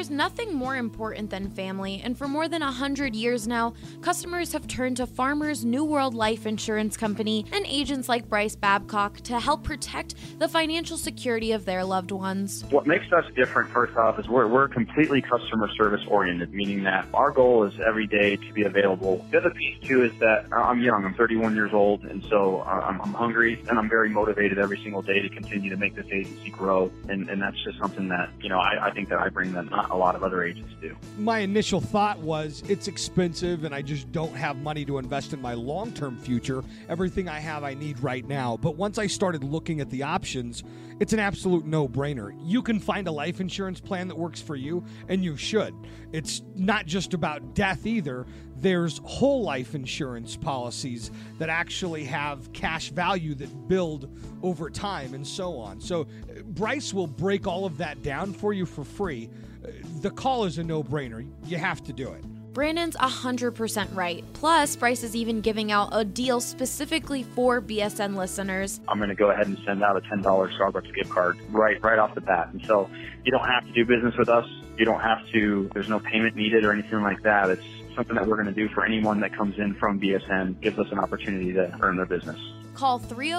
There's nothing more important than family, and for more than 100 years now, customers have turned to Farmers New World Life Insurance Company and agents like Bryce Babcock to help protect the financial security of their loved ones. What makes us different, first off, is we're completely customer service oriented, meaning that our goal is every day to be available. The other piece, too, is that I'm young. I'm 31 years old, and so I'm hungry, and I'm very motivated every single day to continue to make this agency grow, and that's just something that, I think that I bring that not a lot of other agents do. My initial thought was it's expensive and I just don't have money to invest in my long-term future. Everything I have I need right now. But once I started looking at the options, it's an absolute no-brainer. You can find a life insurance plan that works for you, and you should. It's not just about death either. There's whole life insurance policies that actually have cash value that build over time and so on. So Bryce will break all of that down for you for free. The call is a no-brainer. You have to do it. Brandon's 100% right. Plus, Bryce is even giving out a deal specifically for BSN listeners. I'm going to go ahead and send out a $10 Starbucks gift card right off the bat. And so you don't have to do business with us. You don't have to, there's no payment needed or anything like that. It's something that we're going to do for anyone that comes in from BSN, gives us an opportunity to earn their business. Call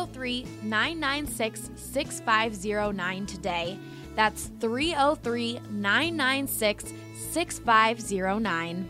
303-996-6509 today. That's 303-996-6509.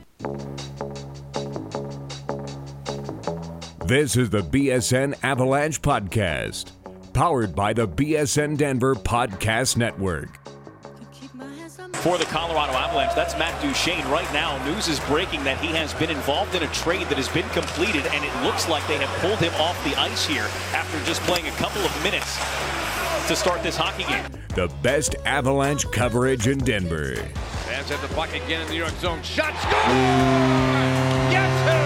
This is the BSN Avalanche Podcast, powered by the BSN Denver Podcast Network. For the Colorado Avalanche, that's Matt Duchene. Right now, news is breaking that he has been involved in a trade that has been completed, and it looks like they have pulled him off the ice here after just playing a couple of minutes to start this hockey game. The best Avalanche coverage in Denver. Fans at the puck again in the New York zone. Shot, score! Guess who?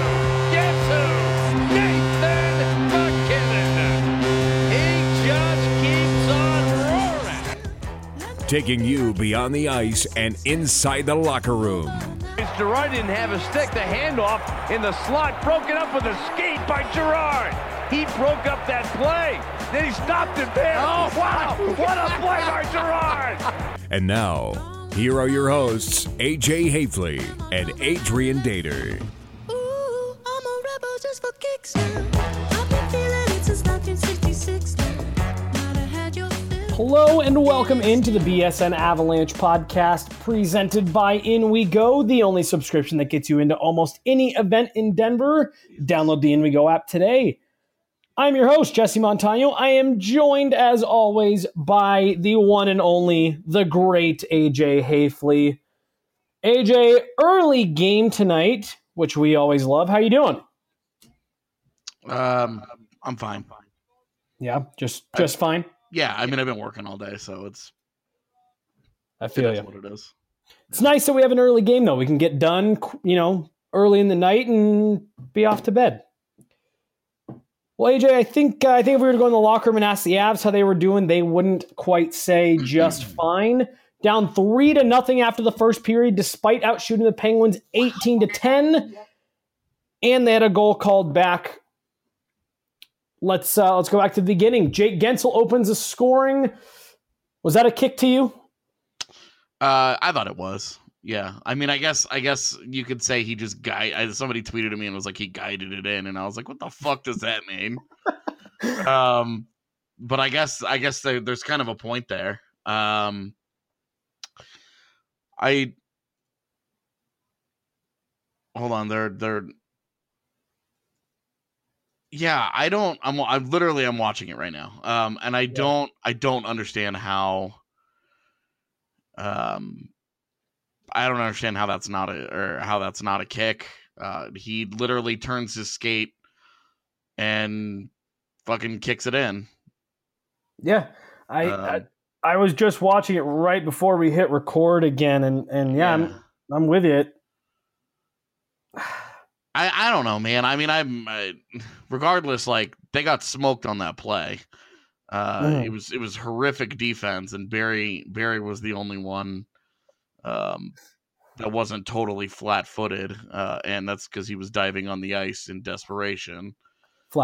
Nathan MacKinnon. He just keeps on roaring. Taking you beyond the ice and inside the locker room. Girard didn't have a stick. The handoff in the slot, broken up with a skate by Girard. He broke up that play. Then he stopped it there. Oh, wow. What a play by Girard. And now, here are your hosts, AJ Hafley and Adrian Dater. Ooh, I'm a rebel just for kicks now. I've been feeling it since 1966 now. Might have had your fill. Hello and welcome into the BSN Avalanche podcast presented by In We Go, the only subscription that gets you into almost any event in Denver. Download the In We Go app today. I'm your host, Jesse Montano. I am joined, as always, by the one and only, the great AJ Hafley. AJ, early game tonight, which we always love. How you doing? I'm fine. Yeah, just fine? Yeah, I mean, I've been working all day, so I feel you. What it is. It's nice that we have an early game, though. We can get done, early in the night and be off to bed. Well, AJ, I think if we were to go in the locker room and ask the Avs how they were doing, they wouldn't quite say just fine. Down 3-0 after the first period, despite outshooting the Penguins 18-10, and they had a goal called back. Let's go back to the beginning. Jake Gensel opens the scoring. Was that a kick to you? I thought it was. Yeah, I mean, I guess you could say he just somebody tweeted at me and was like, he guided it in, and I was like, what the fuck does that mean? But I guess there's kind of a point there. Hold on, they're. Yeah, I'm watching it right now. And I don't understand how. I don't understand how that's not a kick. He literally turns his skate and fucking kicks it in. Yeah, I was just watching it right before we hit record again, and yeah. I'm with you. I don't know, man. I mean, regardless, like, they got smoked on that play. It was horrific defense, and Barry was the only one that wasn't totally flat-footed, and that's because he was diving on the ice in desperation.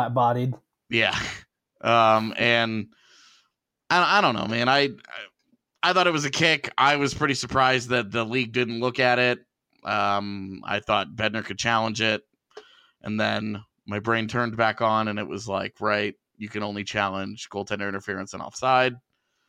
Flat-bodied. Yeah. And I don't know, man. I thought it was a kick. I was pretty surprised that the league didn't look at it. I thought Bednar could challenge it. And then my brain turned back on, and it was like, right, you can only challenge goaltender interference and offside.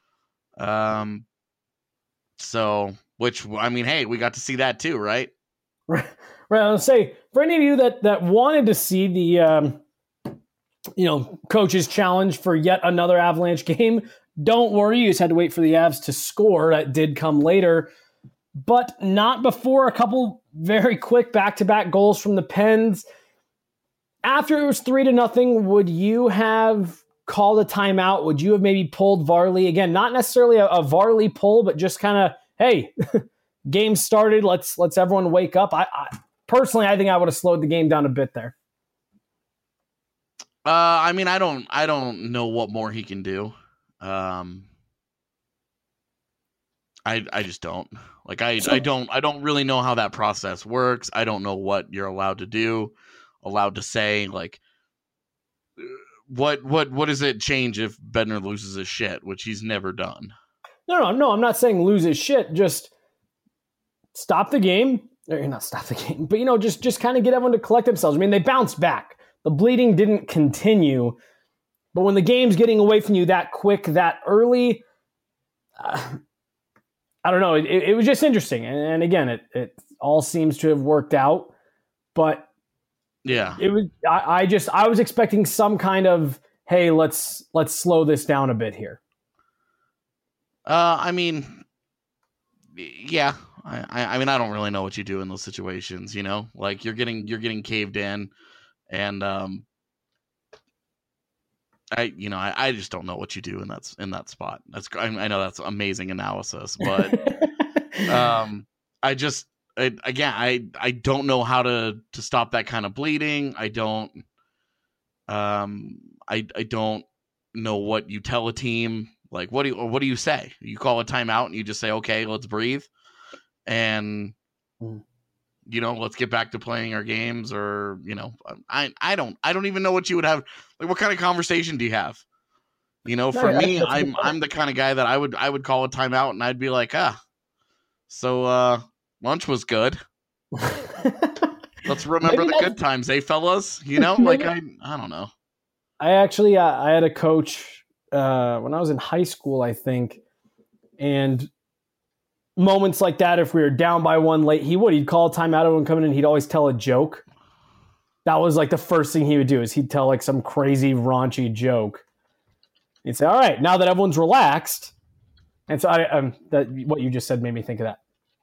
So, which, I mean, hey, we got to see that too, right? Right. I'll say, for any of you that wanted to see the, coach's challenge for yet another Avalanche game, don't worry. You just had to wait for the Avs to score. That did come later, but not before a couple very quick back-to-back goals from the Pens. After it was 3-0, would you have called a timeout? Would you have maybe pulled Varley? Again, not necessarily a Varley pull, but just kind of, hey, game started. Let's everyone wake up. I personally, I think I would have slowed the game down a bit there. I mean, I don't know what more he can do. I just don't. Like, I don't really know how that process works. I don't know what you're allowed to do, allowed to say. Like, what does it change if Bednar loses his shit, which he's never done? No, I'm not saying lose his shit. Just stop the game. Or not stop the game, but, just kind of get everyone to collect themselves. I mean, they bounced back. The bleeding didn't continue. But when the game's getting away from you that quick, that early, I don't know. It was just interesting. And again, it all seems to have worked out. But yeah, it was. I was expecting some kind of, hey, let's slow this down a bit here. I mean, yeah. I mean, I don't really know what you do in those situations. Like you're getting caved in, and I just don't know what you do in that spot. I know that's amazing analysis, but I don't know how to stop that kind of bleeding. I don't know what you tell a team. Like, what do you say? You call a timeout and you just say, okay, let's breathe, and let's get back to playing our games. Or I don't even know what you would have. Like, what kind of conversation do you have? For me, I'm the kind of guy that I would call a timeout and I'd be like, so lunch was good. Let's remember the good times, fellas. I don't know. I actually I had a coach when I was in high school, I think, and moments like that, if we were down by one late, he'd call a timeout, everyone coming in, he'd always tell a joke. That was like the first thing he would do, is he'd tell like some crazy raunchy joke. He'd say, all right, now that everyone's relaxed. And so what you just said made me think of that.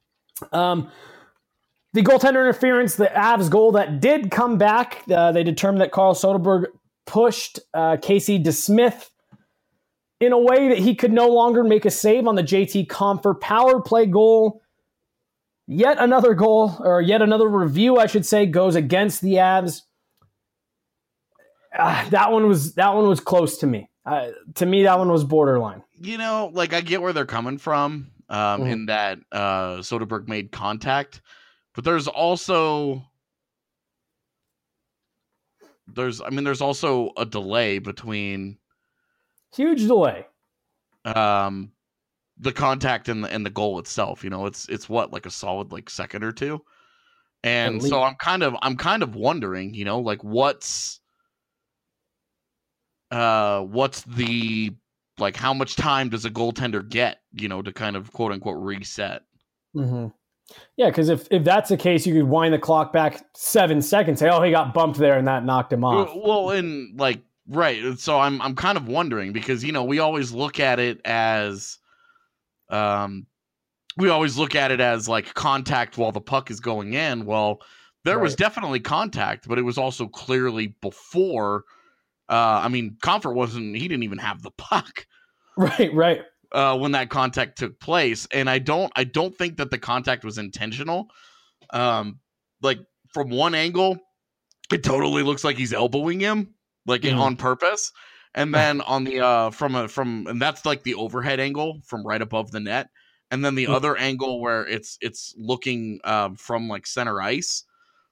The goaltender interference, the Avs goal that did come back, they determined that Carl Soderberg pushed Casey DeSmith in a way that he could no longer make a save on the JT Compher power play goal. Yet another goal, or yet another review, I should say, goes against the Avs. That one was close to me. To me, that one was borderline. I get where they're coming from in that Soderberg made contact, but there's also a delay between. Huge delay. The contact and the goal itself, it's what, like a solid second or two. And so I'm kind of wondering, what's the, how much time does a goaltender get, to kind of quote unquote reset? Mm-hmm. Yeah. Cause if that's the case, you could wind the clock back 7 seconds, say, oh, he got bumped there and that knocked him off. Well, and right. So I'm kind of wondering because, we always look at it as, contact while the puck is going in. Well, there was definitely contact, but it was also clearly before. Compher he didn't even have the puck. Right. When that contact took place. And I don't think that the contact was intentional. From one angle, it totally looks like he's elbowing him. On purpose, and then on the and that's the overhead angle from right above the net, and then the other angle where it's looking from center ice.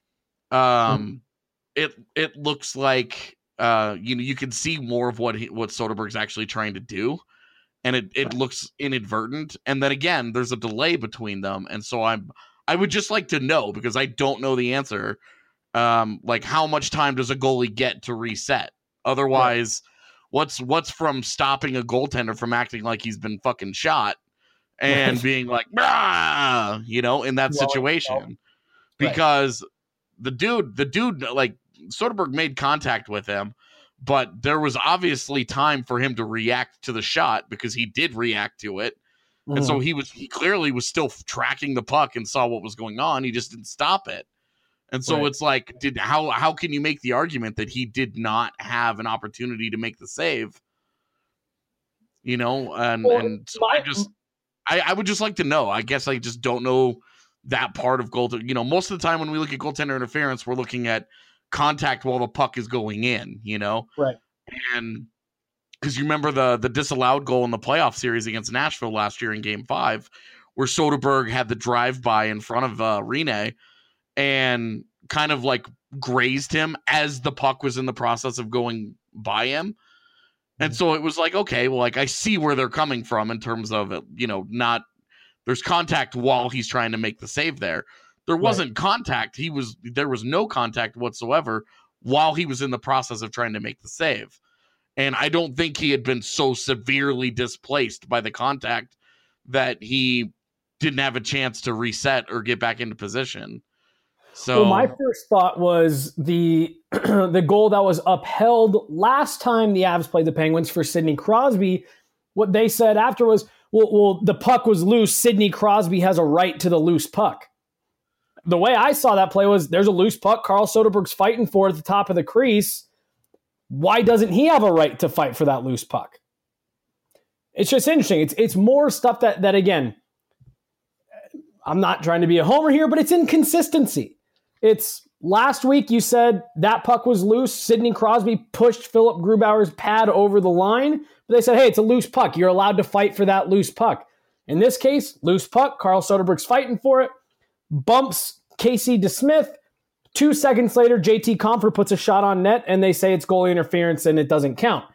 It looks like you can see more of what Soderberg's actually trying to do, and it looks inadvertent. And then again, there's a delay between them. And so I would just like to know, because I don't know the answer. Like, how much time does a goalie get to reset? Otherwise, what's from stopping a goaltender from acting like he's been fucking shot and being like, in that situation? Because the dude, like, Soderbergh made contact with him, but there was obviously time for him to react to the shot, because he did react to it. And so he clearly was still tracking the puck and saw what was going on. He just didn't stop it. And so it's like, how can you make the argument that he did not have an opportunity to make the save? And so I would just like to know. I guess I just don't know that part of goaltender. Most of the time when we look at goaltender interference, we're looking at contact while the puck is going in, Right. And because you remember the disallowed goal in the playoff series against Nashville last year in Game 5, where Soderbergh had the drive-by in front of Rinne and kind of like grazed him as the puck was in the process of going by him. And so it was like, okay, well, like, I see where they're coming from in terms of, not there's contact while he's trying to make the save there. There wasn't contact. There was no contact whatsoever while he was in the process of trying to make the save. And I don't think he had been so severely displaced by the contact that he didn't have a chance to reset or get back into position. So my first thought was the the goal that was upheld last time the Avs played the Penguins for Sidney Crosby. What they said after was, well, the puck was loose. Sidney Crosby has a right to the loose puck. The way I saw that play was, there's a loose puck Carl Soderbergh's fighting for at the top of the crease. Why doesn't he have a right to fight for that loose puck? It's just interesting. It's more stuff that again, I'm not trying to be a homer here, but it's inconsistency. It's last week you said that puck was loose. Sidney Crosby pushed Philip Grubauer's pad over the line. But they said, hey, it's a loose puck. You're allowed to fight for that loose puck. In this case, loose puck. Carl Soderbergh's fighting for it. Bumps Casey DeSmith. 2 seconds later, JT Compher puts a shot on net, and they say it's goalie interference and it doesn't count.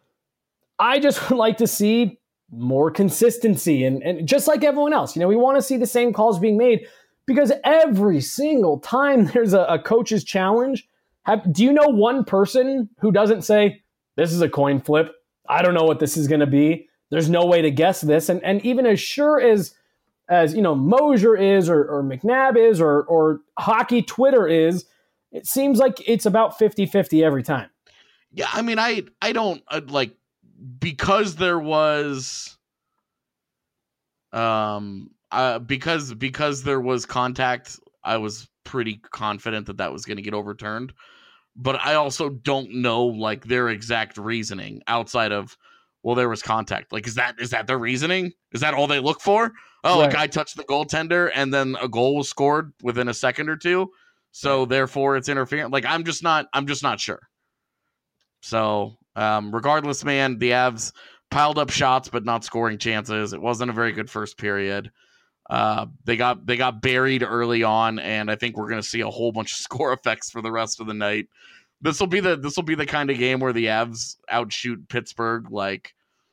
I just would like to see more consistency. And just like everyone else, we want to see the same calls being made, because every single time there's a coach's challenge, do you know one person who doesn't say, this is a coin flip, I don't know what this is going to be, there's no way to guess this? And even as sure as Mosier is or McNabb is or hockey Twitter is, it seems like it's about 50-50 every time. Yeah, I mean, I don't like, because there was because there was contact, I was pretty confident that was going to get overturned. But I also don't know, like, their exact reasoning outside of, well, there was contact. Like, is that their reasoning? Is that all they look for? Oh, right. A guy touched the goaltender and then a goal was scored within a second or two, so therefore it's interference. Like, I'm just not sure. So, regardless, man, the Avs piled up shots but not scoring chances. It wasn't a very good first period. They got buried early on, and I think we're going to see a whole bunch of score effects for the rest of the night. This will be the kind of game where the Avs outshoot Pittsburgh like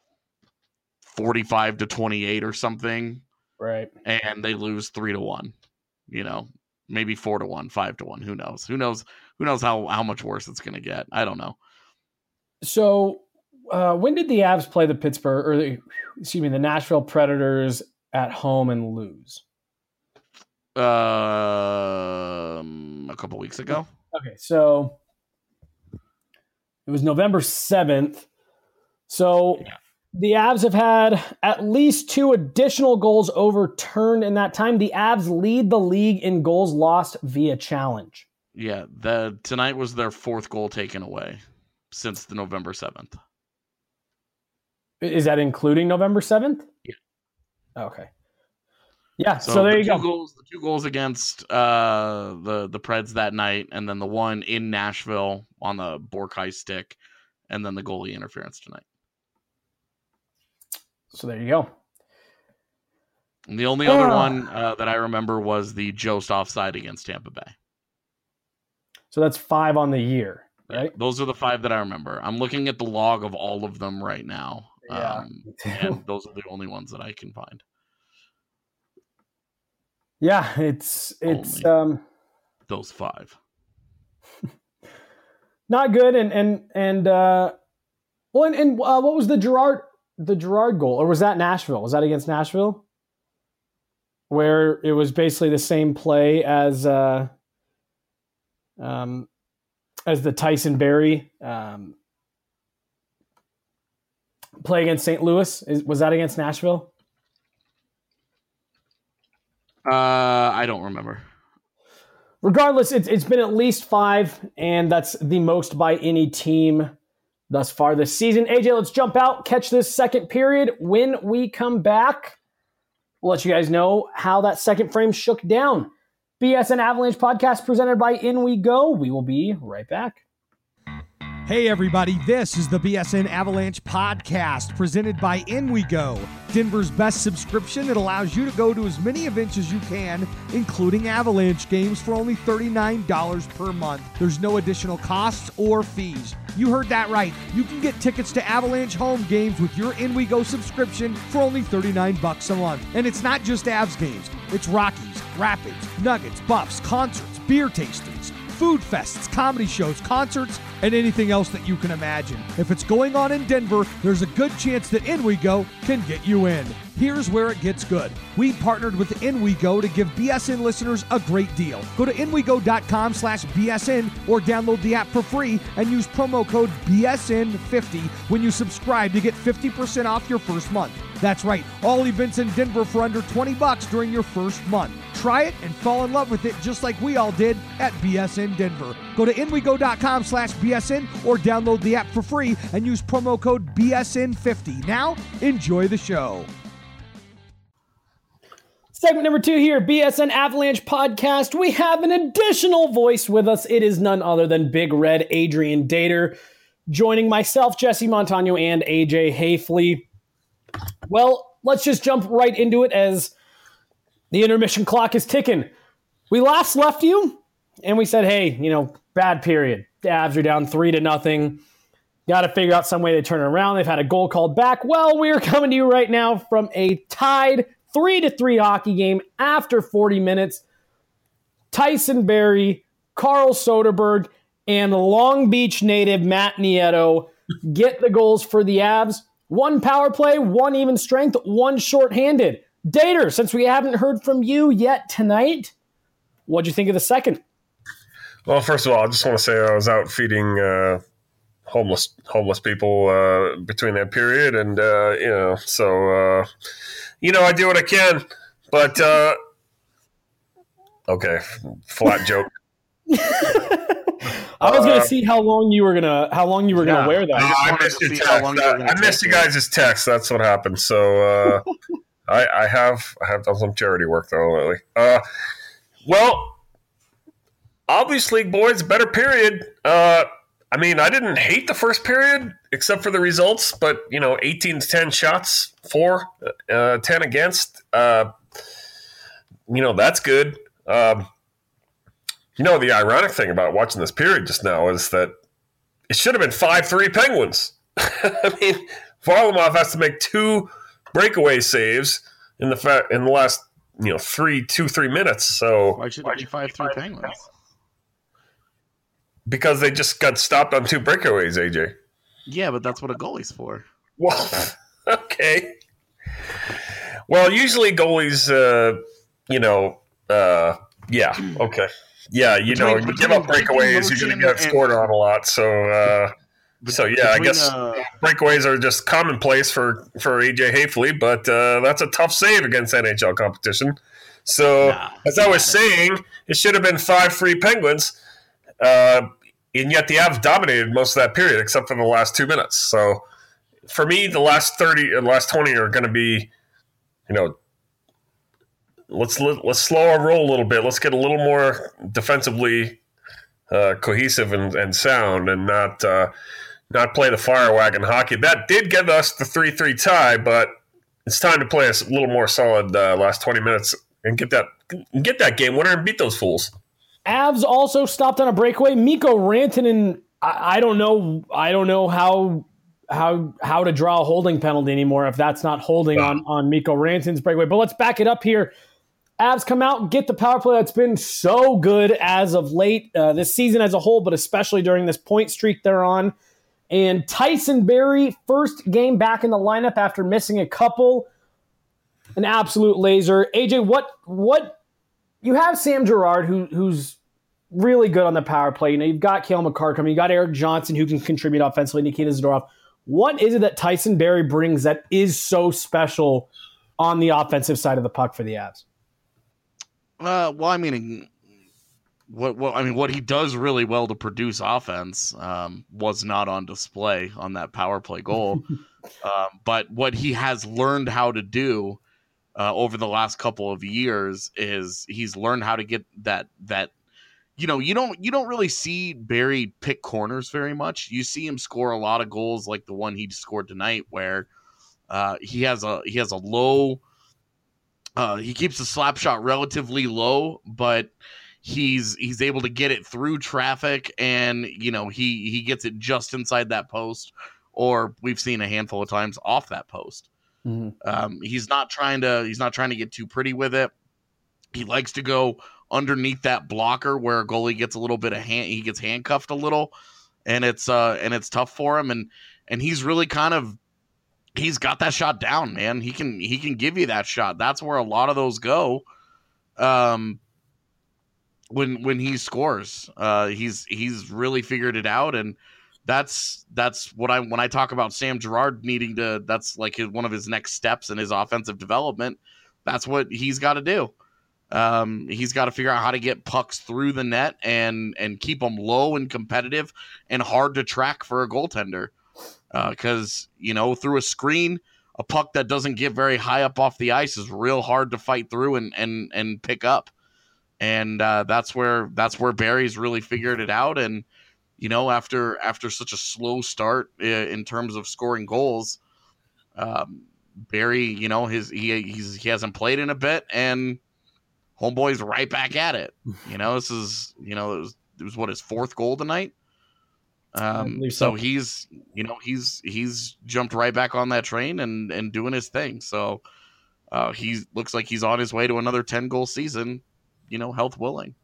45-28 or something. Right. And they lose 3-1, maybe 4-1, 5-1. Who knows how much worse it's going to get. I don't know. So when did the Avs play the Nashville Predators at home and lose? A couple weeks ago. Okay. So it was November 7th. So yeah. The Avs have had at least 2 additional goals overturned in that time. The Avs lead the league in goals lost via challenge. Yeah, tonight was their 4th goal taken away since the November 7th. Is that including November 7th? Yeah. Okay. Yeah, so there you go. The 2 goals against the Preds that night, and then the one in Nashville on the Borkai stick, and then the goalie interference tonight. So there you go. And the only other one that I remember was the Jost offside against Tampa Bay. So that's 5 on the year, right? Yeah, those are the 5 that I remember. I'm looking at the log of all of them right now. And those are the only ones that I can find. Yeah, it's those 5. Not good. And what was the Gerard goal, or was that Nashville? Was that against Nashville, where it was basically the same play as the Tyson Barrie play against St. Louis? Was that against Nashville? I don't remember. Regardless, it's been at least 5, and that's the most by any team thus far this season. AJ, let's jump out, catch this second period. When we come back, we'll let you guys know how that second frame shook down. BSN Avalanche podcast presented by In We Go. We will be right back. Hey everybody, this is the BSN Avalanche podcast presented by In We Go, Denver's best subscription that allows you to go to as many events as you can, including Avalanche games, for only $39 per month. There's no additional costs or fees. You heard that right. You can get tickets to Avalanche home games with your In We Go subscription for only $39 a month. And it's not just Avs games. It's Rockies, Rapids, Nuggets, Buffs, concerts, beer tastings, food fests, comedy shows, concerts, and anything else that you can imagine. If it's going on in Denver, there's a good chance that In We Go can get you in. Here's where it gets good. We partnered with In We Go to give BSN listeners a great deal. Go to inwego.com/BSN or download the app for free and use promo code BSN50 when you subscribe to get 50% off your first month. That's right, all events in Denver for under $20 during your first month. Try it and fall in love with it just like we all did at BSN Denver. Go to inwego.com/BSN or download the app for free and use promo code BSN50. Now, enjoy the show. Segment number 2 here, BSN Avalanche podcast. We have an additional voice with us. It is none other than Big Red Adrian Dater, joining myself, Jesse Montano, and AJ Hafley. Well, let's just jump right into it as the intermission clock is ticking. We last left you, and we said, hey, bad period. The Avs are down 3-0. Got to figure out some way to turn it around. They've had a goal called back. Well, we're coming to you right now from a tied 3-3 hockey game after 40 minutes. Tyson Barrie, Carl Soderberg, and Long Beach native Matt Nieto get the goals for the Avs. 1 power play, 1 even strength, 1 shorthanded. Dater, since we haven't heard from you yet tonight, what'd you think of the second? Well, first of all, I just want to say I was out feeding homeless people between that period, and I do what I can. But okay, flat joke. I was going to see how long you were gonna wear that. I missed your text. I missed you guys' text. That's what happened. So I have done some charity work though lately. Well, obviously, boys, better period. I didn't hate the first period except for the results, but 18-10 shots for, 10 against. That's good. The ironic thing about watching this period just now is that it should have been 5-3 Penguins. Varlamov has to make 2 breakaway saves in the last 3 minutes. So why should it be 5-3 Penguins? Because they just got stopped on 2 breakaways, AJ. Yeah, but that's what a goalie's for. Well, okay. Well, usually goalies, yeah, okay. Yeah, you give up breakaways, you're going to get scored on a lot. So, I guess breakaways are just commonplace for AJ Hafley, but that's a tough save against NHL competition. So, as I was saying, it should have been 5-3 Penguins, and yet the Avs dominated most of that period except for the last 2 minutes. So, for me, the last 30 and last 20 are going to be, let's slow our roll a little bit. Let's get a little more defensively cohesive and sound, and not play the fire wagon hockey. That did get us the 3-3 tie, but it's time to play a little more solid last 20 minutes and get that game winner and beat those fools. Avs also stopped on a breakaway. Mikko Rantanen, I don't know how how to draw a holding penalty anymore if that's not holding on Mikko Rantanen's breakaway. But let's back it up here. Avs come out and get the power play that's been so good as of late this season as a whole, but especially during this point streak they're on. And Tyson Barrie, first game back in the lineup after missing a couple. An absolute laser. AJ, what you have Sam Girard, who's really good on the power play. You know, you've got Cale Makar coming. You got Eric Johnson, who can contribute offensively. Nikita Zadorov. What is it that Tyson Barrie brings that is so special on the offensive side of the puck for the Avs? Well, I mean, what he does really well to produce offense was not on display on that power play goal. But what he has learned how to do over the last couple of years is he's learned how to get that. You know, you don't really see Barrie pick corners very much. You see him score a lot of goals like the one he scored tonight, where he has a low. He keeps the slap shot relatively low, but he's able to get it through traffic, and you know he gets it just inside that post, or we've seen a handful of times off that post. Mm-hmm. He's not trying to get too pretty with it. He likes to go underneath that blocker where a goalie gets a little bit of he gets handcuffed a little, and it's tough for him, and he's really he's got that shot down, man. He can give you that shot. That's where a lot of those go. When he scores, he's really figured it out, and that's what when I talk about Sam Girard needing to. That's like one of his next steps in his offensive development. That's what he's got to do. He's got to figure out how to get pucks through the net and keep them low and competitive and hard to track for a goaltender. Because, you know, through a screen, a puck that doesn't get very high up off the ice is real hard to fight through and pick up. And that's where Barrie's really figured it out. And, you know, after such a slow start in terms of scoring goals, Barrie, you know, he hasn't played in a bit, and homeboy's right back at it. You know, this is, you know, it was what, his fourth goal tonight. So he's jumped right back on that train and doing his thing. So he looks like he's on his way to another 10-goal season, you know, health willing.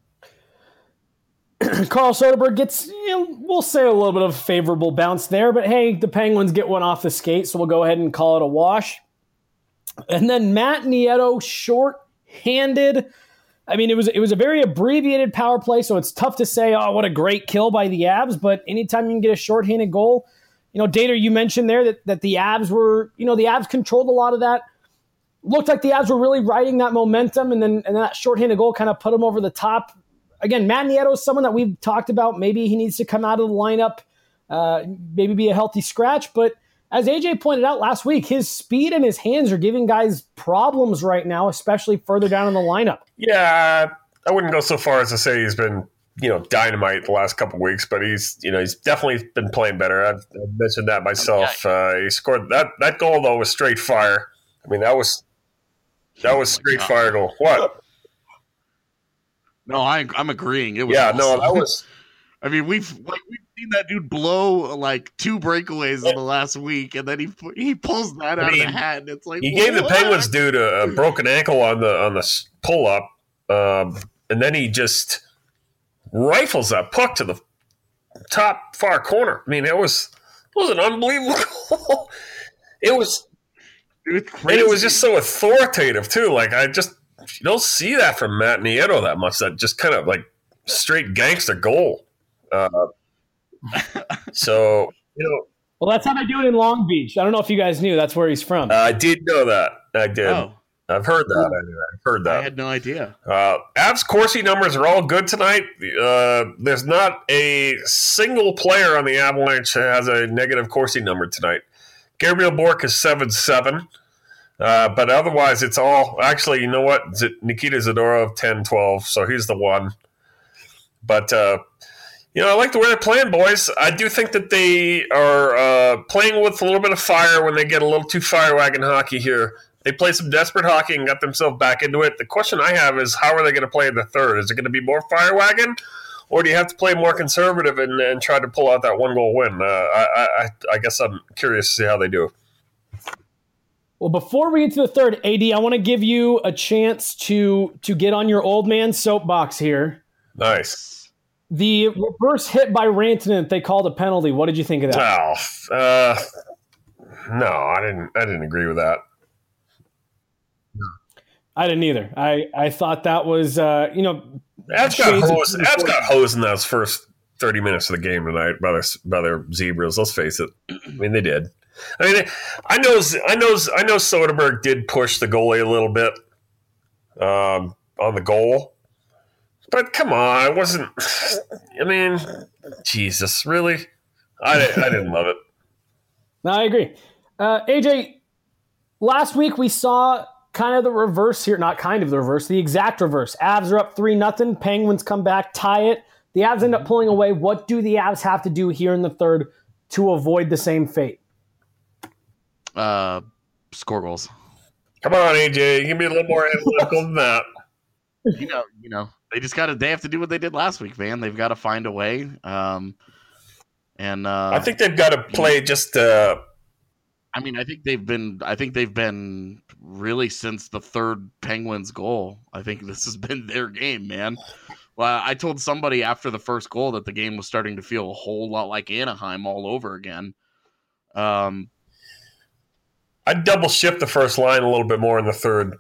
Carl Soderberg gets, you know, we'll say a little bit of a favorable bounce there, but hey, the Penguins get one off the skate, so we'll go ahead and call it a wash. And then Matt Nieto, short-handed. I mean, it was a very abbreviated power play, so it's tough to say, oh, what a great kill by the Avs, but anytime you can get a shorthanded goal, you know, Dater, you mentioned there that the Avs were, you know, the Avs controlled a lot of that. Looked like the Avs were really riding that momentum, and then that shorthanded goal kind of put them over the top. Again, Matt Nieto is someone that we've talked about. Maybe he needs to come out of the lineup, maybe be a healthy scratch, but as AJ pointed out last week, his speed and his hands are giving guys problems right now, especially further down in the lineup. Yeah, I wouldn't go so far as to say he's been, you know, dynamite the last couple of weeks, but he's definitely been playing better. I've mentioned that myself. He scored that goal though was straight fire. I mean, that was straight fire goal. What? No, I'm agreeing. It was awesome. No, that was. I mean, we've seen that dude blow like 2 breakaways in the last week, and then he pulls that out of the hat, and it's like he gave the Penguins dude a broken ankle on the pull up, and then he just rifles that puck to the top far corner. I mean, it was an unbelievable goal. It was crazy. And it was just so authoritative too. Like you don't see that from Matt Nieto that much. That just kind of like straight gangster goal. So, you know. Well, that's how they do it in Long Beach. I don't know if you guys knew that's where he's from. I did know that. I did. Oh. I've heard that. I've heard that. I had no idea. Avs Corsi numbers are all good tonight. There's not a single player on the Avalanche that has a negative Corsi number tonight. Gabriel Bourque is 7-7. But otherwise, it's all – actually, you know what? Nikita Zadorov, 10-12, so he's the one. But, you know, I like the way they're playing, boys. I do think that they are playing with a little bit of fire when they get a little too fire wagon hockey here. They played some desperate hockey and got themselves back into it. The question I have is, how are they going to play in the third? Is it going to be more fire wagon, or do you have to play more conservative and try to pull out that 1-goal win? I guess I'm curious to see how they do. Well, before we get to the third, AD, I want to give you a chance to get on your old man soapbox here. Nice. The reverse hit by Rantanen that they called a penalty. What did you think of that? No, I didn't agree with that. I didn't either. I thought that was Avs got hosed in those first 30 minutes of the game tonight by their Zebras. Let's face it. I mean, they did. I mean, I know Soderberg did push the goalie a little bit on the goal, but come on, it wasn't. I mean, Jesus, really? I didn't love it. No, I agree. AJ, last week we saw kind of the reverse here. Not kind of the reverse, the exact reverse. Avs are up 3-0. Penguins come back, tie it. The Avs end up pulling away. What do the Avs have to do here in the third to avoid the same fate? Score goals. Come on, AJ. Give me a little more analytical than that. You know, they have to do what they did last week, man. They've got to find a way. I think they've got to play just. I think they've been really since the third Penguins goal. I think this has been their game, man. Well, I told somebody after the first goal that the game was starting to feel a whole lot like Anaheim all over again. I'd double shift the first line a little bit more in the third.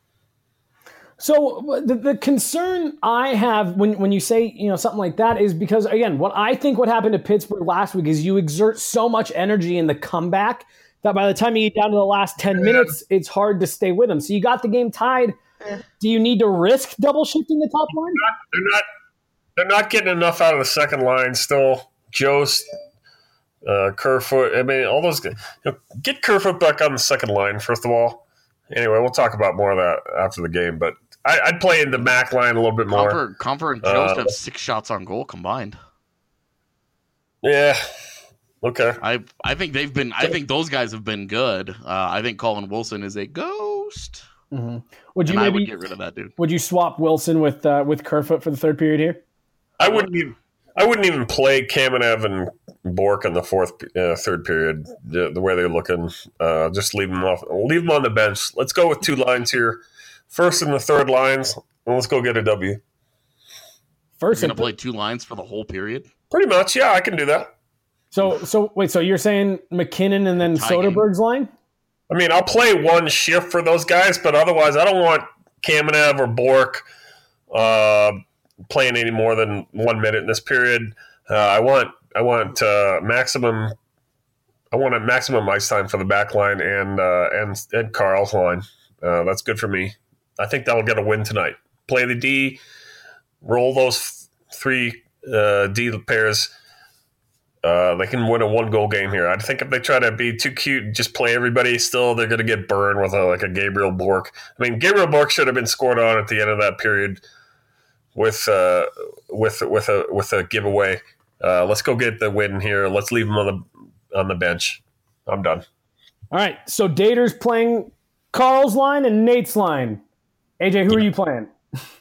So the concern I have when you say something like that is because, again, what happened to Pittsburgh last week is you exert so much energy in the comeback that by the time you get down to the last 10 minutes, it's hard to stay with them. So you got the game tied. Do you need to risk double shifting the top line? They're not getting enough out of the second line still. Jost, Kerfoot. I mean, all those guys. Get Kerfoot back on the second line, first of all. Anyway, we'll talk about more of that after the game. But I'd play in the Mac line a little bit more. Comfort and Jost have 6 shots on goal combined. Yeah. Okay. I think they've been. I think those guys have been good. I think Colin Wilson is a ghost. Mm-hmm. I would get rid of that dude. Would you swap Wilson with Kerfoot for the third period here? I wouldn't even play Kamenev and Bork in the third period. The way they're looking, just leave them off. Leave them on the bench. Let's go with 2 lines here, first and the third lines, and let's go get a W. First, you're gonna play 2 lines for the whole period. Pretty much, yeah. I can do that. So wait. So you're saying McKinnon and then Soderberg's line? I mean, I'll play 1 shift for those guys, but otherwise, I don't want Kamenev or Bork playing any more than 1 minute in this period. I want maximum. I want a maximum ice time for the back line and Carl's line. That's good for me. I think that'll get a win tonight. Play the D, roll those 3 D pairs. They can win a 1-goal game here. I think if they try to be too cute and just play everybody, still they're going to get burned with a Gabriel Bork. I mean, Gabriel Bork should have been scored on at the end of that period with a giveaway. Let's go get the win here. Let's leave him on the bench. I'm done. All right. So Dater's playing Carl's line and Nate's line. AJ, who are you playing?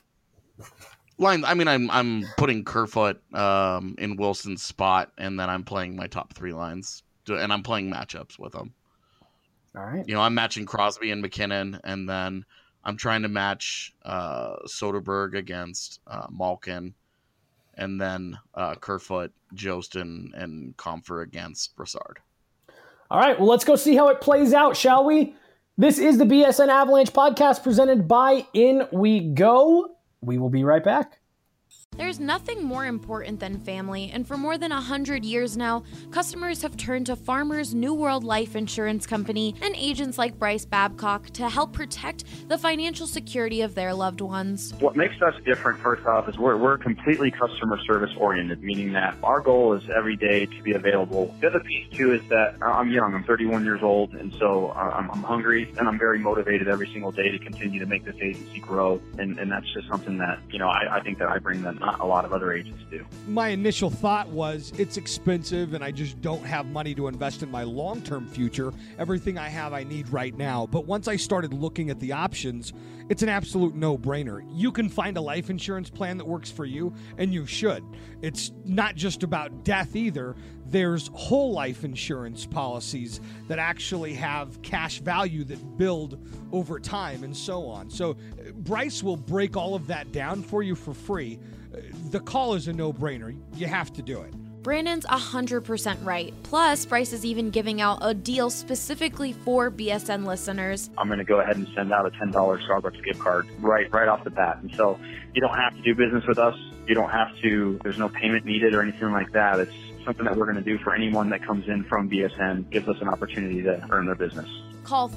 Line. I mean, I'm putting Kerfoot in Wilson's spot, and then I'm playing my top 3 lines, and I'm playing matchups with them. All right. I'm matching Crosby and McKinnon, and then I'm trying to match Soderberg against Malkin, and then Kerfoot, Jost, and Comfer against Brassard. All right. Well, let's go see how it plays out, shall we? This is the BSN Avalanche podcast presented by In We Go. We will be right back. There's nothing more important than family, and for more than 100 years now, customers have turned to Farmers New World Life Insurance Company and agents like Bryce Babcock to help protect the financial security of their loved ones. What makes us different, first off, is we're completely customer service oriented, meaning that our goal is every day to be available. The other piece, too, is that I'm young. I'm 31 years old, and so I'm hungry, and I'm very motivated every single day to continue to make this agency grow, and that's just something that, I think that I bring them. not a lot of other agents do. My initial thought was it's expensive and I just don't have money to invest in my long-term future. Everything I have I need right now. But once I started looking at the options, it's an absolute no-brainer. You can find a life insurance plan that works for you, and you should. It's not just about death either. There's whole life insurance policies that actually have cash value that build over time and so on. So Bryce will break all of that down for you for free. The call is a no-brainer. You have to do it. Brandon's 100% right. Plus, Bryce is even giving out a deal specifically for BSN listeners. I'm going to go ahead and send out a $10 Starbucks gift card right off the bat. And so you don't have to do business with us. You don't have to, there's no payment needed or anything like that. It's something that we're going to do for anyone that comes in from BSN, gives us an opportunity to earn their business. Call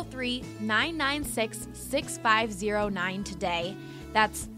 303-996-6509 today. That's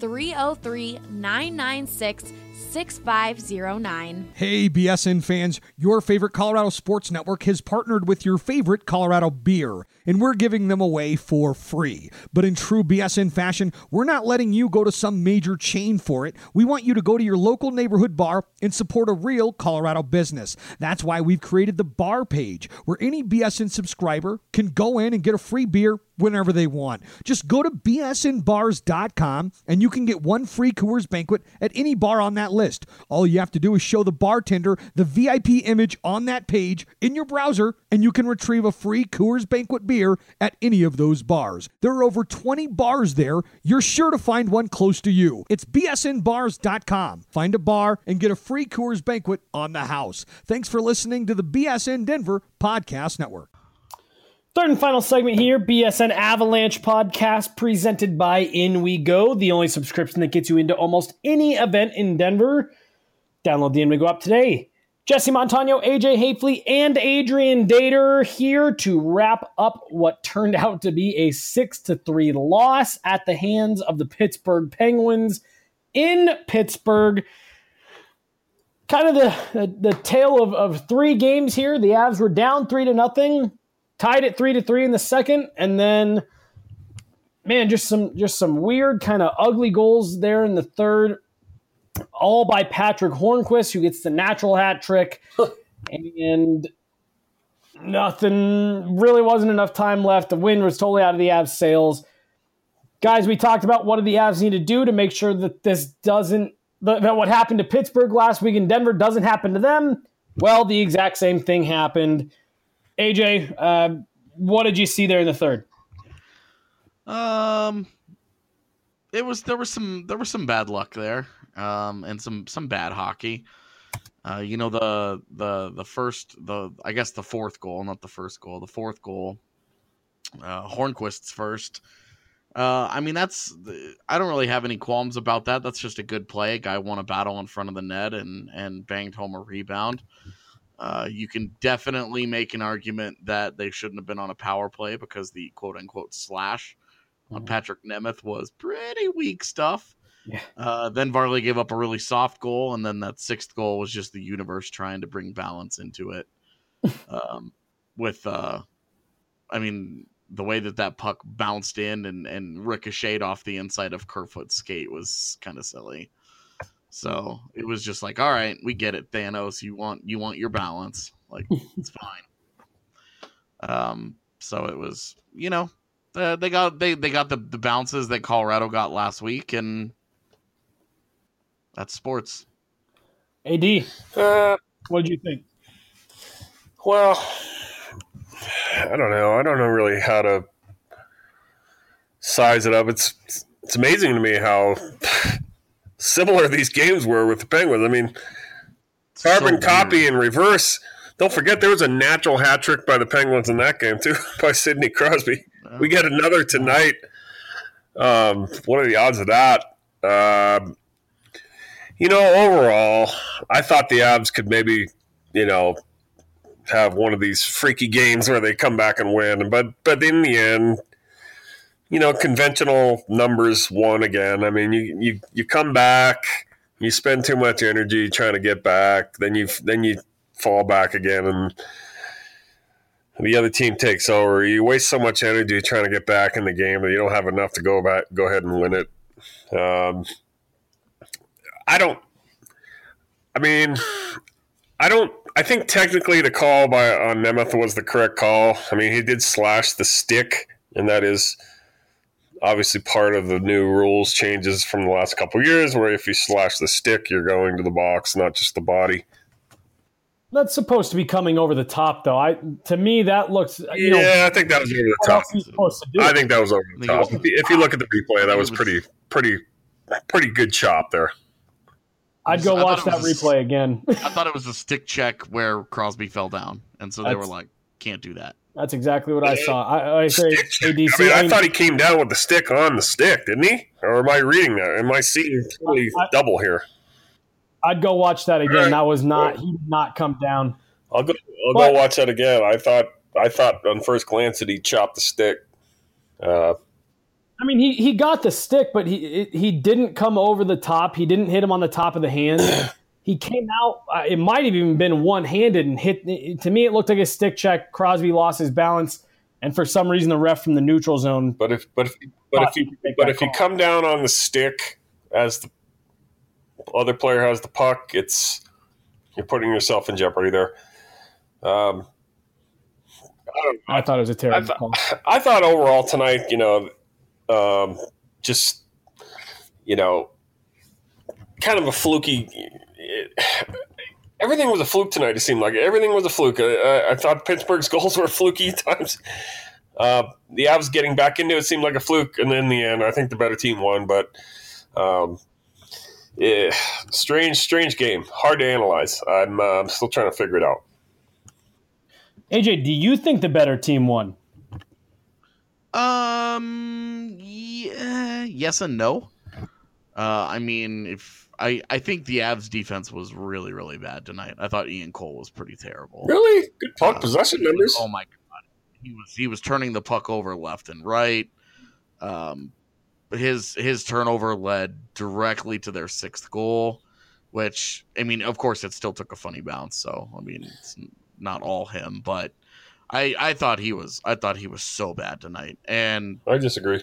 303-996-6509. Hey, BSN fans, your favorite Colorado Sports Network has partnered with your favorite Colorado beer, and we're giving them away for free. But in true BSN fashion, we're not letting you go to some major chain for it. We want you to go to your local neighborhood bar and support a real Colorado business. That's why we've created the bar page, where any BSN subscriber can go in and get a free beer whenever they want. Just go to bsnbars.com and you can get one free Coors Banquet at any bar on that list. All you have to do is show the bartender the VIP image on that page in your browser, and you can retrieve a free Coors Banquet beer at any of those bars. There are over 20 bars there. You're sure to find one close to you. It's bsnbars.com. Find a bar and get a free Coors Banquet on the house. Thanks for listening to the BSN Denver Podcast Network. Third and final segment here, BSN Avalanche podcast presented by In We Go, the only subscription that gets you into almost any event in Denver. Download the In We Go app today. Jesse Montano, AJ Hafley, and Adrian Dater here to wrap up what turned out to be a 6-3 loss at the hands of the Pittsburgh Penguins in Pittsburgh. Kind of the tale of three games here. The Avs were down 3-0. Tied at 3-3 in the second, and then, man, just some weird kind of ugly goals there in the third, all by Patrick Hornquist, who gets the natural hat trick, and really wasn't enough time left. The wind was totally out of the Avs' sails. Guys, we talked about what do the Avs need to do to make sure that that what happened to Pittsburgh last week in Denver doesn't happen to them. Well, the exact same thing happened. AJ, what did you see there in the third? There was some bad luck there, and some bad hockey. I guess the fourth goal, not the first goal, the fourth goal, Hornquist's first. I don't really have any qualms about that. That's just a good play. A guy won a battle in front of the net and banged home a rebound. You can definitely make an argument that they shouldn't have been on a power play because the quote-unquote slash on Patrick Nemeth was pretty weak stuff. Yeah. Then Varley gave up a really soft goal, and then that sixth goal was just the universe trying to bring balance into it. The way that puck bounced in and ricocheted off the inside of Kerfoot's skate was kind of silly. So it was just like, all right, we get it, Thanos. You want your balance, like it's fine. So it was, they got the bounces that Colorado got last week, and that's sports. AD, what did you think? Well, I don't know. I don't know really how to size it up. It's amazing to me how similar these games were with the Penguins. I mean, carbon copy and reverse. Don't forget there was a natural hat trick by the Penguins in that game too, by Sidney Crosby. We get another tonight. What are the odds of that? Overall, I thought the Avs could maybe, have one of these freaky games where they come back and win. But in the end, conventional numbers won again. I mean, you come back, you spend too much energy trying to get back, then you fall back again, and the other team takes over. You waste so much energy trying to get back in the game that you don't have enough to go ahead and win it. I think technically the call on Nemeth was the correct call. I mean, he did slash the stick, and that is obviously part of the new rules changes from the last couple of years, where if you slash the stick, you're going to the box, not just the body. That's supposed to be coming over the top, though. To me, that looks. I think that was over the top. I think that was over the top. If you look at the replay, that was pretty good chop there. I'd go watch that replay again. I thought it was a stick check where Crosby fell down, and so they were like, "Can't do that." That's exactly what I saw. I say ADC. I thought he came down with the stick on the stick, didn't he? Or am I reading that? Am I seeing totally double here? I'd go watch that again. Right. That was not. He did not come down. I'll go watch that again. I thought on first glance that he chopped the stick. I mean, he got the stick, but he didn't come over the top. He didn't hit him on the top of the hand. He came out. It might have even been one-handed and hit. To me, it looked like a stick check. Crosby lost his balance, and for some reason, the ref from the neutral zone. But if you come down on the stick as the other player has the puck, you're putting yourself in jeopardy there. I thought it was a terrible call. I thought overall tonight, kind of a fluky. Everything was a fluke tonight. It seemed like everything was a fluke. I thought Pittsburgh's goals were fluky at times. The Avs getting back into it seemed like a fluke, and in the end, I think the better team won. But strange game, hard to analyze. I'm still trying to figure it out. AJ, do you think the better team won? Yeah, yes and no. I mean, I think the Avs defense was really, really bad tonight. I thought Ian Cole was pretty terrible. Really? Good puck possession numbers. Oh my god. He was turning the puck over left and right. His turnover led directly to their sixth goal, which, I mean, of course it still took a funny bounce, so I mean, it's not all him, but I thought he was so bad tonight, and I disagree.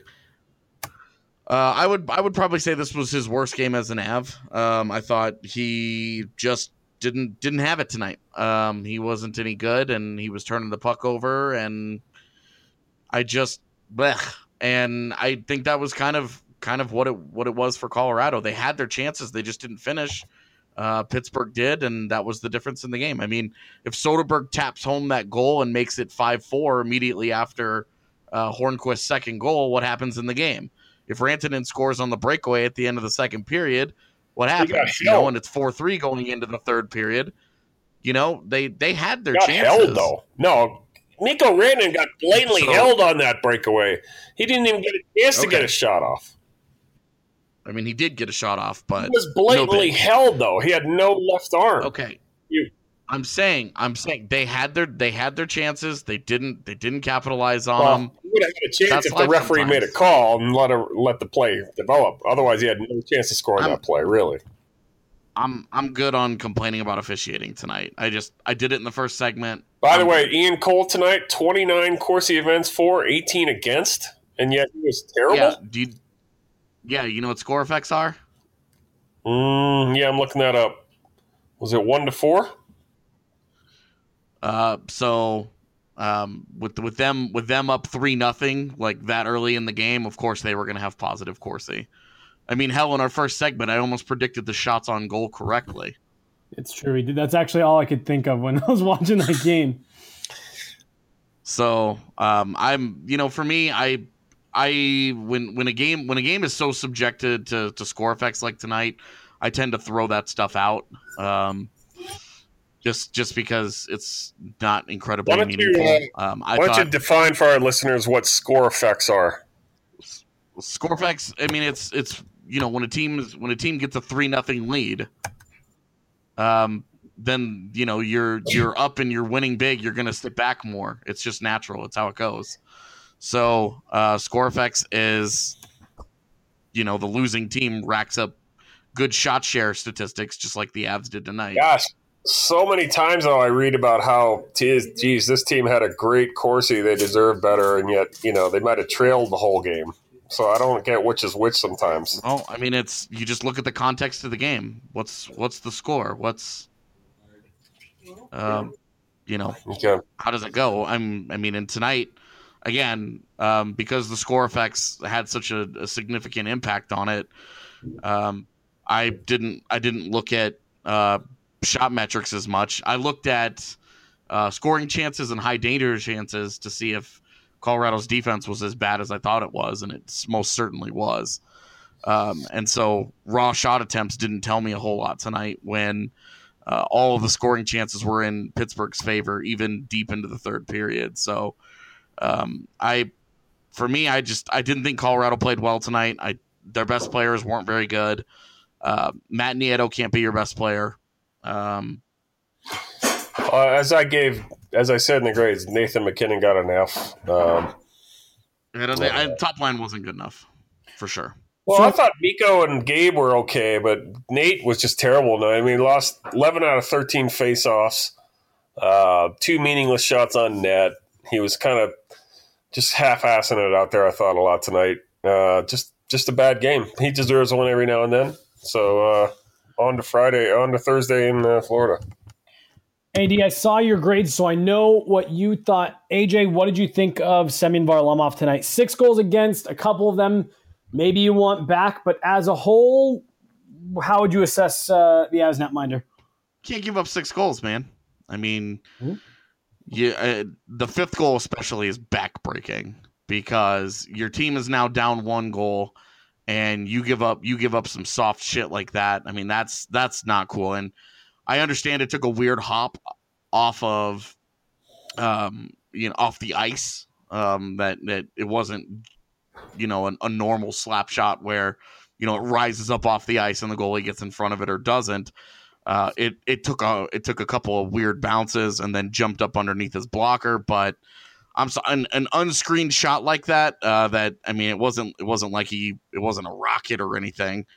I would probably say this was his worst game as an Av. I thought he just didn't have it tonight. He wasn't any good, and he was turning the puck over, and and I think that was kind of what it was for Colorado. They had their chances, they just didn't finish. Pittsburgh did, and that was the difference in the game. I mean, if Soderberg taps home that goal and makes it 5-4 immediately after Hornquist's second goal, what happens in the game? If Rantanen scores on the breakaway at the end of the second period, what happens? And it's 4-3 going into the third period. They had their chances. Held, though. No, Mikko Rantanen got blatantly held on that breakaway. He didn't even get a chance to get a shot off. I mean, he did get a shot off, but he was blatantly held, though. He had no left arm. Okay, I'm saying they had their chances. They didn't capitalize on them. He would have had a chance if the referee made a call and let the play develop. Otherwise, he had no chance of scoring that play. Really, I'm good on complaining about officiating tonight. I did it in the first segment. By the way, Ian Cole tonight, 29 Corsi events for, 18 against, and yet he was terrible. Yeah, you know what score effects are? Yeah, I'm looking that up. Was it 1-4? With them up 3-0, like that early in the game, of course they were going to have positive Corsi. I mean, hell, in our first segment, I almost predicted the shots on goal correctly. It's true. That's actually all I could think of when I was watching that game. So, for me, when a game is so subjected to score effects like tonight, I tend to throw that stuff out. Just because it's not incredibly meaningful. Why don't you define for our listeners what score effects are? Score effects. I mean, it's when a team gets a 3-0 lead, then you're up and you're winning big. You're going to sit back more. It's just natural. It's how it goes. So score effects is, the losing team racks up good shot share statistics, just like the Avs did tonight. Gosh, so many times though I read about how, geez, this team had a great Corsi, they deserve better, and yet they might have trailed the whole game. So I don't get which is which sometimes. Oh, I mean, it's you just look at the context of the game. What's the score? What's Okay. how does it go? And tonight, again, because the score effects had such a significant impact on it, I didn't look at shot metrics as much. I looked at scoring chances and high danger chances to see if Colorado's defense was as bad as I thought it was, and it most certainly was. And so raw shot attempts didn't tell me a whole lot tonight when all of the scoring chances were in Pittsburgh's favor, even deep into the third period. So I didn't think Colorado played well tonight. Their best players weren't very good. Matt Nieto can't be your best player. As I said in the grades, Nathan McKinnon got an F. Top line wasn't good enough, for sure. Well, I thought Mikko and Gabe were okay, but Nate was just terrible. I mean, he lost 11 out of 13 faceoffs, 2 meaningless shots on net. He was kind of just half-assing it out there, I thought, a lot tonight. Just a bad game. He deserves one every now and then. So on to Thursday in Florida. AD, I saw your grades, so I know what you thought. AJ, what did you think of Semyon Varlamov tonight? 6 goals against, a couple of them maybe you want back, but as a whole, how would you assess the Avs netminder? Can't give up 6 goals, man. I mean, the 5th goal especially is backbreaking because your team is now down 1 goal, and you give up some soft shit like that. I mean, that's not cool. And I understand it took a weird hop off of, off the ice. That it wasn't, a normal slap shot where, it rises up off the ice and the goalie gets in front of it or doesn't. It took a couple of weird bounces and then jumped up underneath his blocker. But an unscreened shot like that. It wasn't like it wasn't a rocket or anything.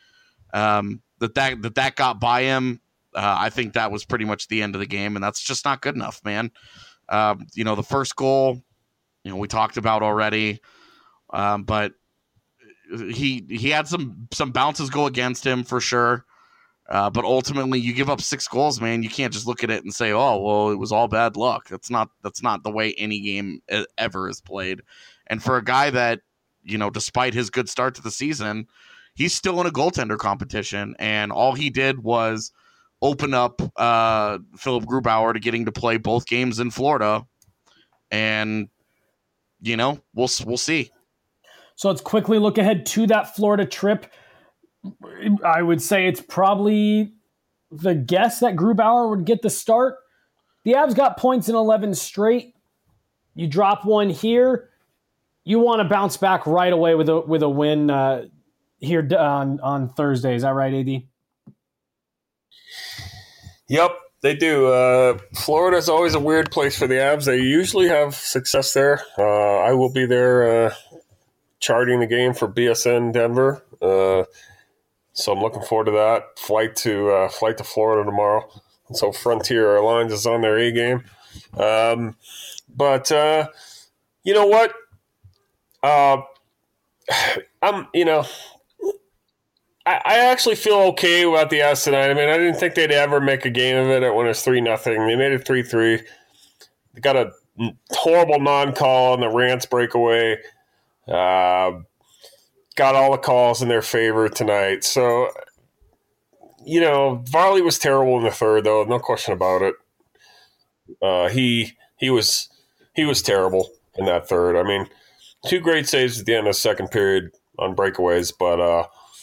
That got by him. I think that was pretty much the end of the game, and that's just not good enough, man. The first goal, we talked about already, but he had some bounces go against him for sure. But ultimately, you give up 6 goals, man. You can't just look at it and say, "Oh, well, it was all bad luck." That's not the way any game ever is played. And for a guy that, despite his good start to the season, he's still in a goaltender competition, and all he did was open up Philip Grubauer to getting to play both games in Florida, and we'll see. So let's quickly look ahead to that Florida trip. I would say it's probably the guess that Grubauer would get the start. The Avs got points in 11 straight. You drop one here, you want to bounce back right away with a win here on Thursday. Is that right, AD? Yep, they do. Florida's always a weird place for the Avs. They usually have success there. I will be there charting the game for BSN Denver. So I'm looking forward to that. Flight to Florida tomorrow. And so Frontier Airlines is on their A game. But you know what? I actually feel okay about the Avs tonight. I mean, I didn't think they'd ever make a game of it when it was 3-0. They made it 3-3. They got a horrible non-call on the Rance breakaway. Got all the calls in their favor tonight. So, Varley was terrible in the third, though. No question about it. He was terrible in that third. I mean, 2 great saves at the end of the second period on breakaways, but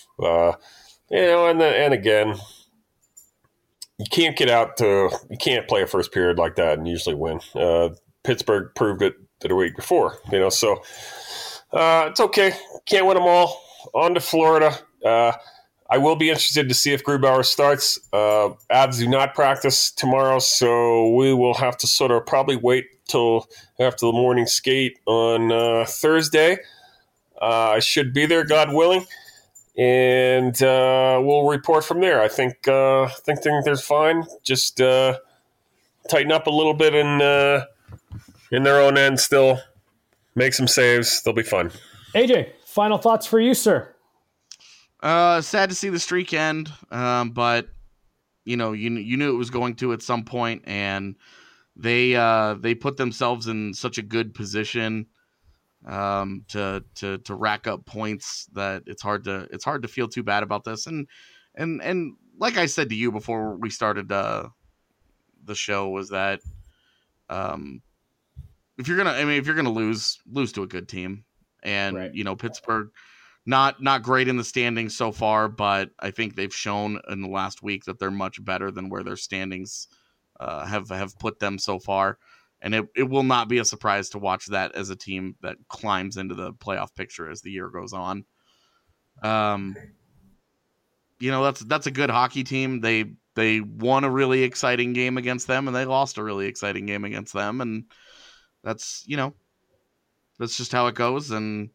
and again, you can't play a first period like that and usually win. Pittsburgh proved it the week before, so it's okay. Can't win them all. On to Florida. I will be interested to see if Grubauer starts. Avs do not practice tomorrow, so we will have to sort of probably wait till after the morning skate on Thursday. I should be there, God willing. And we'll report from there. I think they're fine. Just tighten up a little bit in their own end still. Make some saves. They'll be fun. AJ, Final thoughts for you, sir? Sad to see the streak end, but you knew it was going to at some point, and they put themselves in such a good position to rack up points that it's hard to feel too bad about this. And like I said to you before we started the show, was that if you're gonna lose to a good team, and right. Pittsburgh not great in the standings so far, but I think they've shown in the last week that they're much better than where their standings have put them so far. And it will not be a surprise to watch that as a team that climbs into the playoff picture as the year goes on. That's a good hockey team. They won a really exciting game against them, and they lost a really exciting game against them, and that's just how it goes. And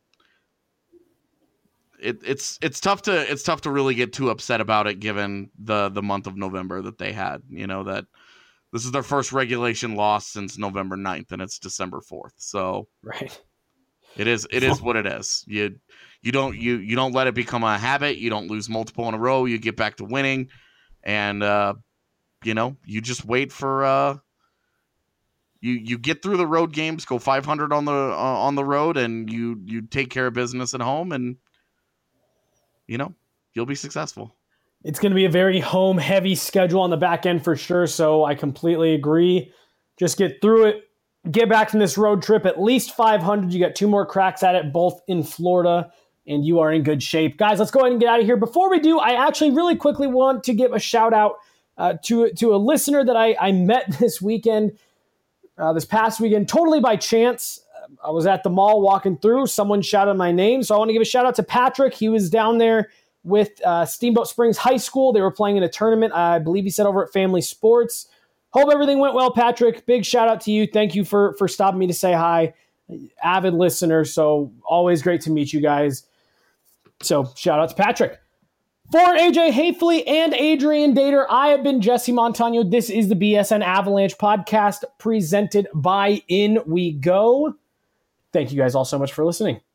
it's tough to really get too upset about it, given the month of November that they had. That this is their first regulation loss since November 9th, and it's December 4th. So right, it is what it is. You don't let it become a habit. You don't lose multiple in a row. You get back to winning, and you just wait for you get through the road games, go 500 on the road, and you take care of business at home, and you'll be successful. It's going to be a very home-heavy schedule on the back end for sure, so I completely agree. Just get through it. Get back from this road trip at least 500. You got 2 more cracks at it, both in Florida, and you are in good shape. Guys, let's go ahead and get out of here. Before we do, I actually really quickly want to give a shout-out to a listener that I met this weekend, this past weekend, totally by chance. I was at the mall walking through. Someone shouted my name, so I want to give a shout-out to Patrick. He was down there with Steamboat Springs High School. They were playing in a tournament, I believe he said over at Family Sports. Hope everything went well, Patrick. Big shout out to you. Thank you for stopping me to say hi. Avid listener, so always great to meet you guys. So shout out to Patrick. For AJ Hayfley and Adrian Dater, I have been Jesse Montano. This is the BSN Avalanche podcast presented by In We Go. Thank you guys all so much for listening.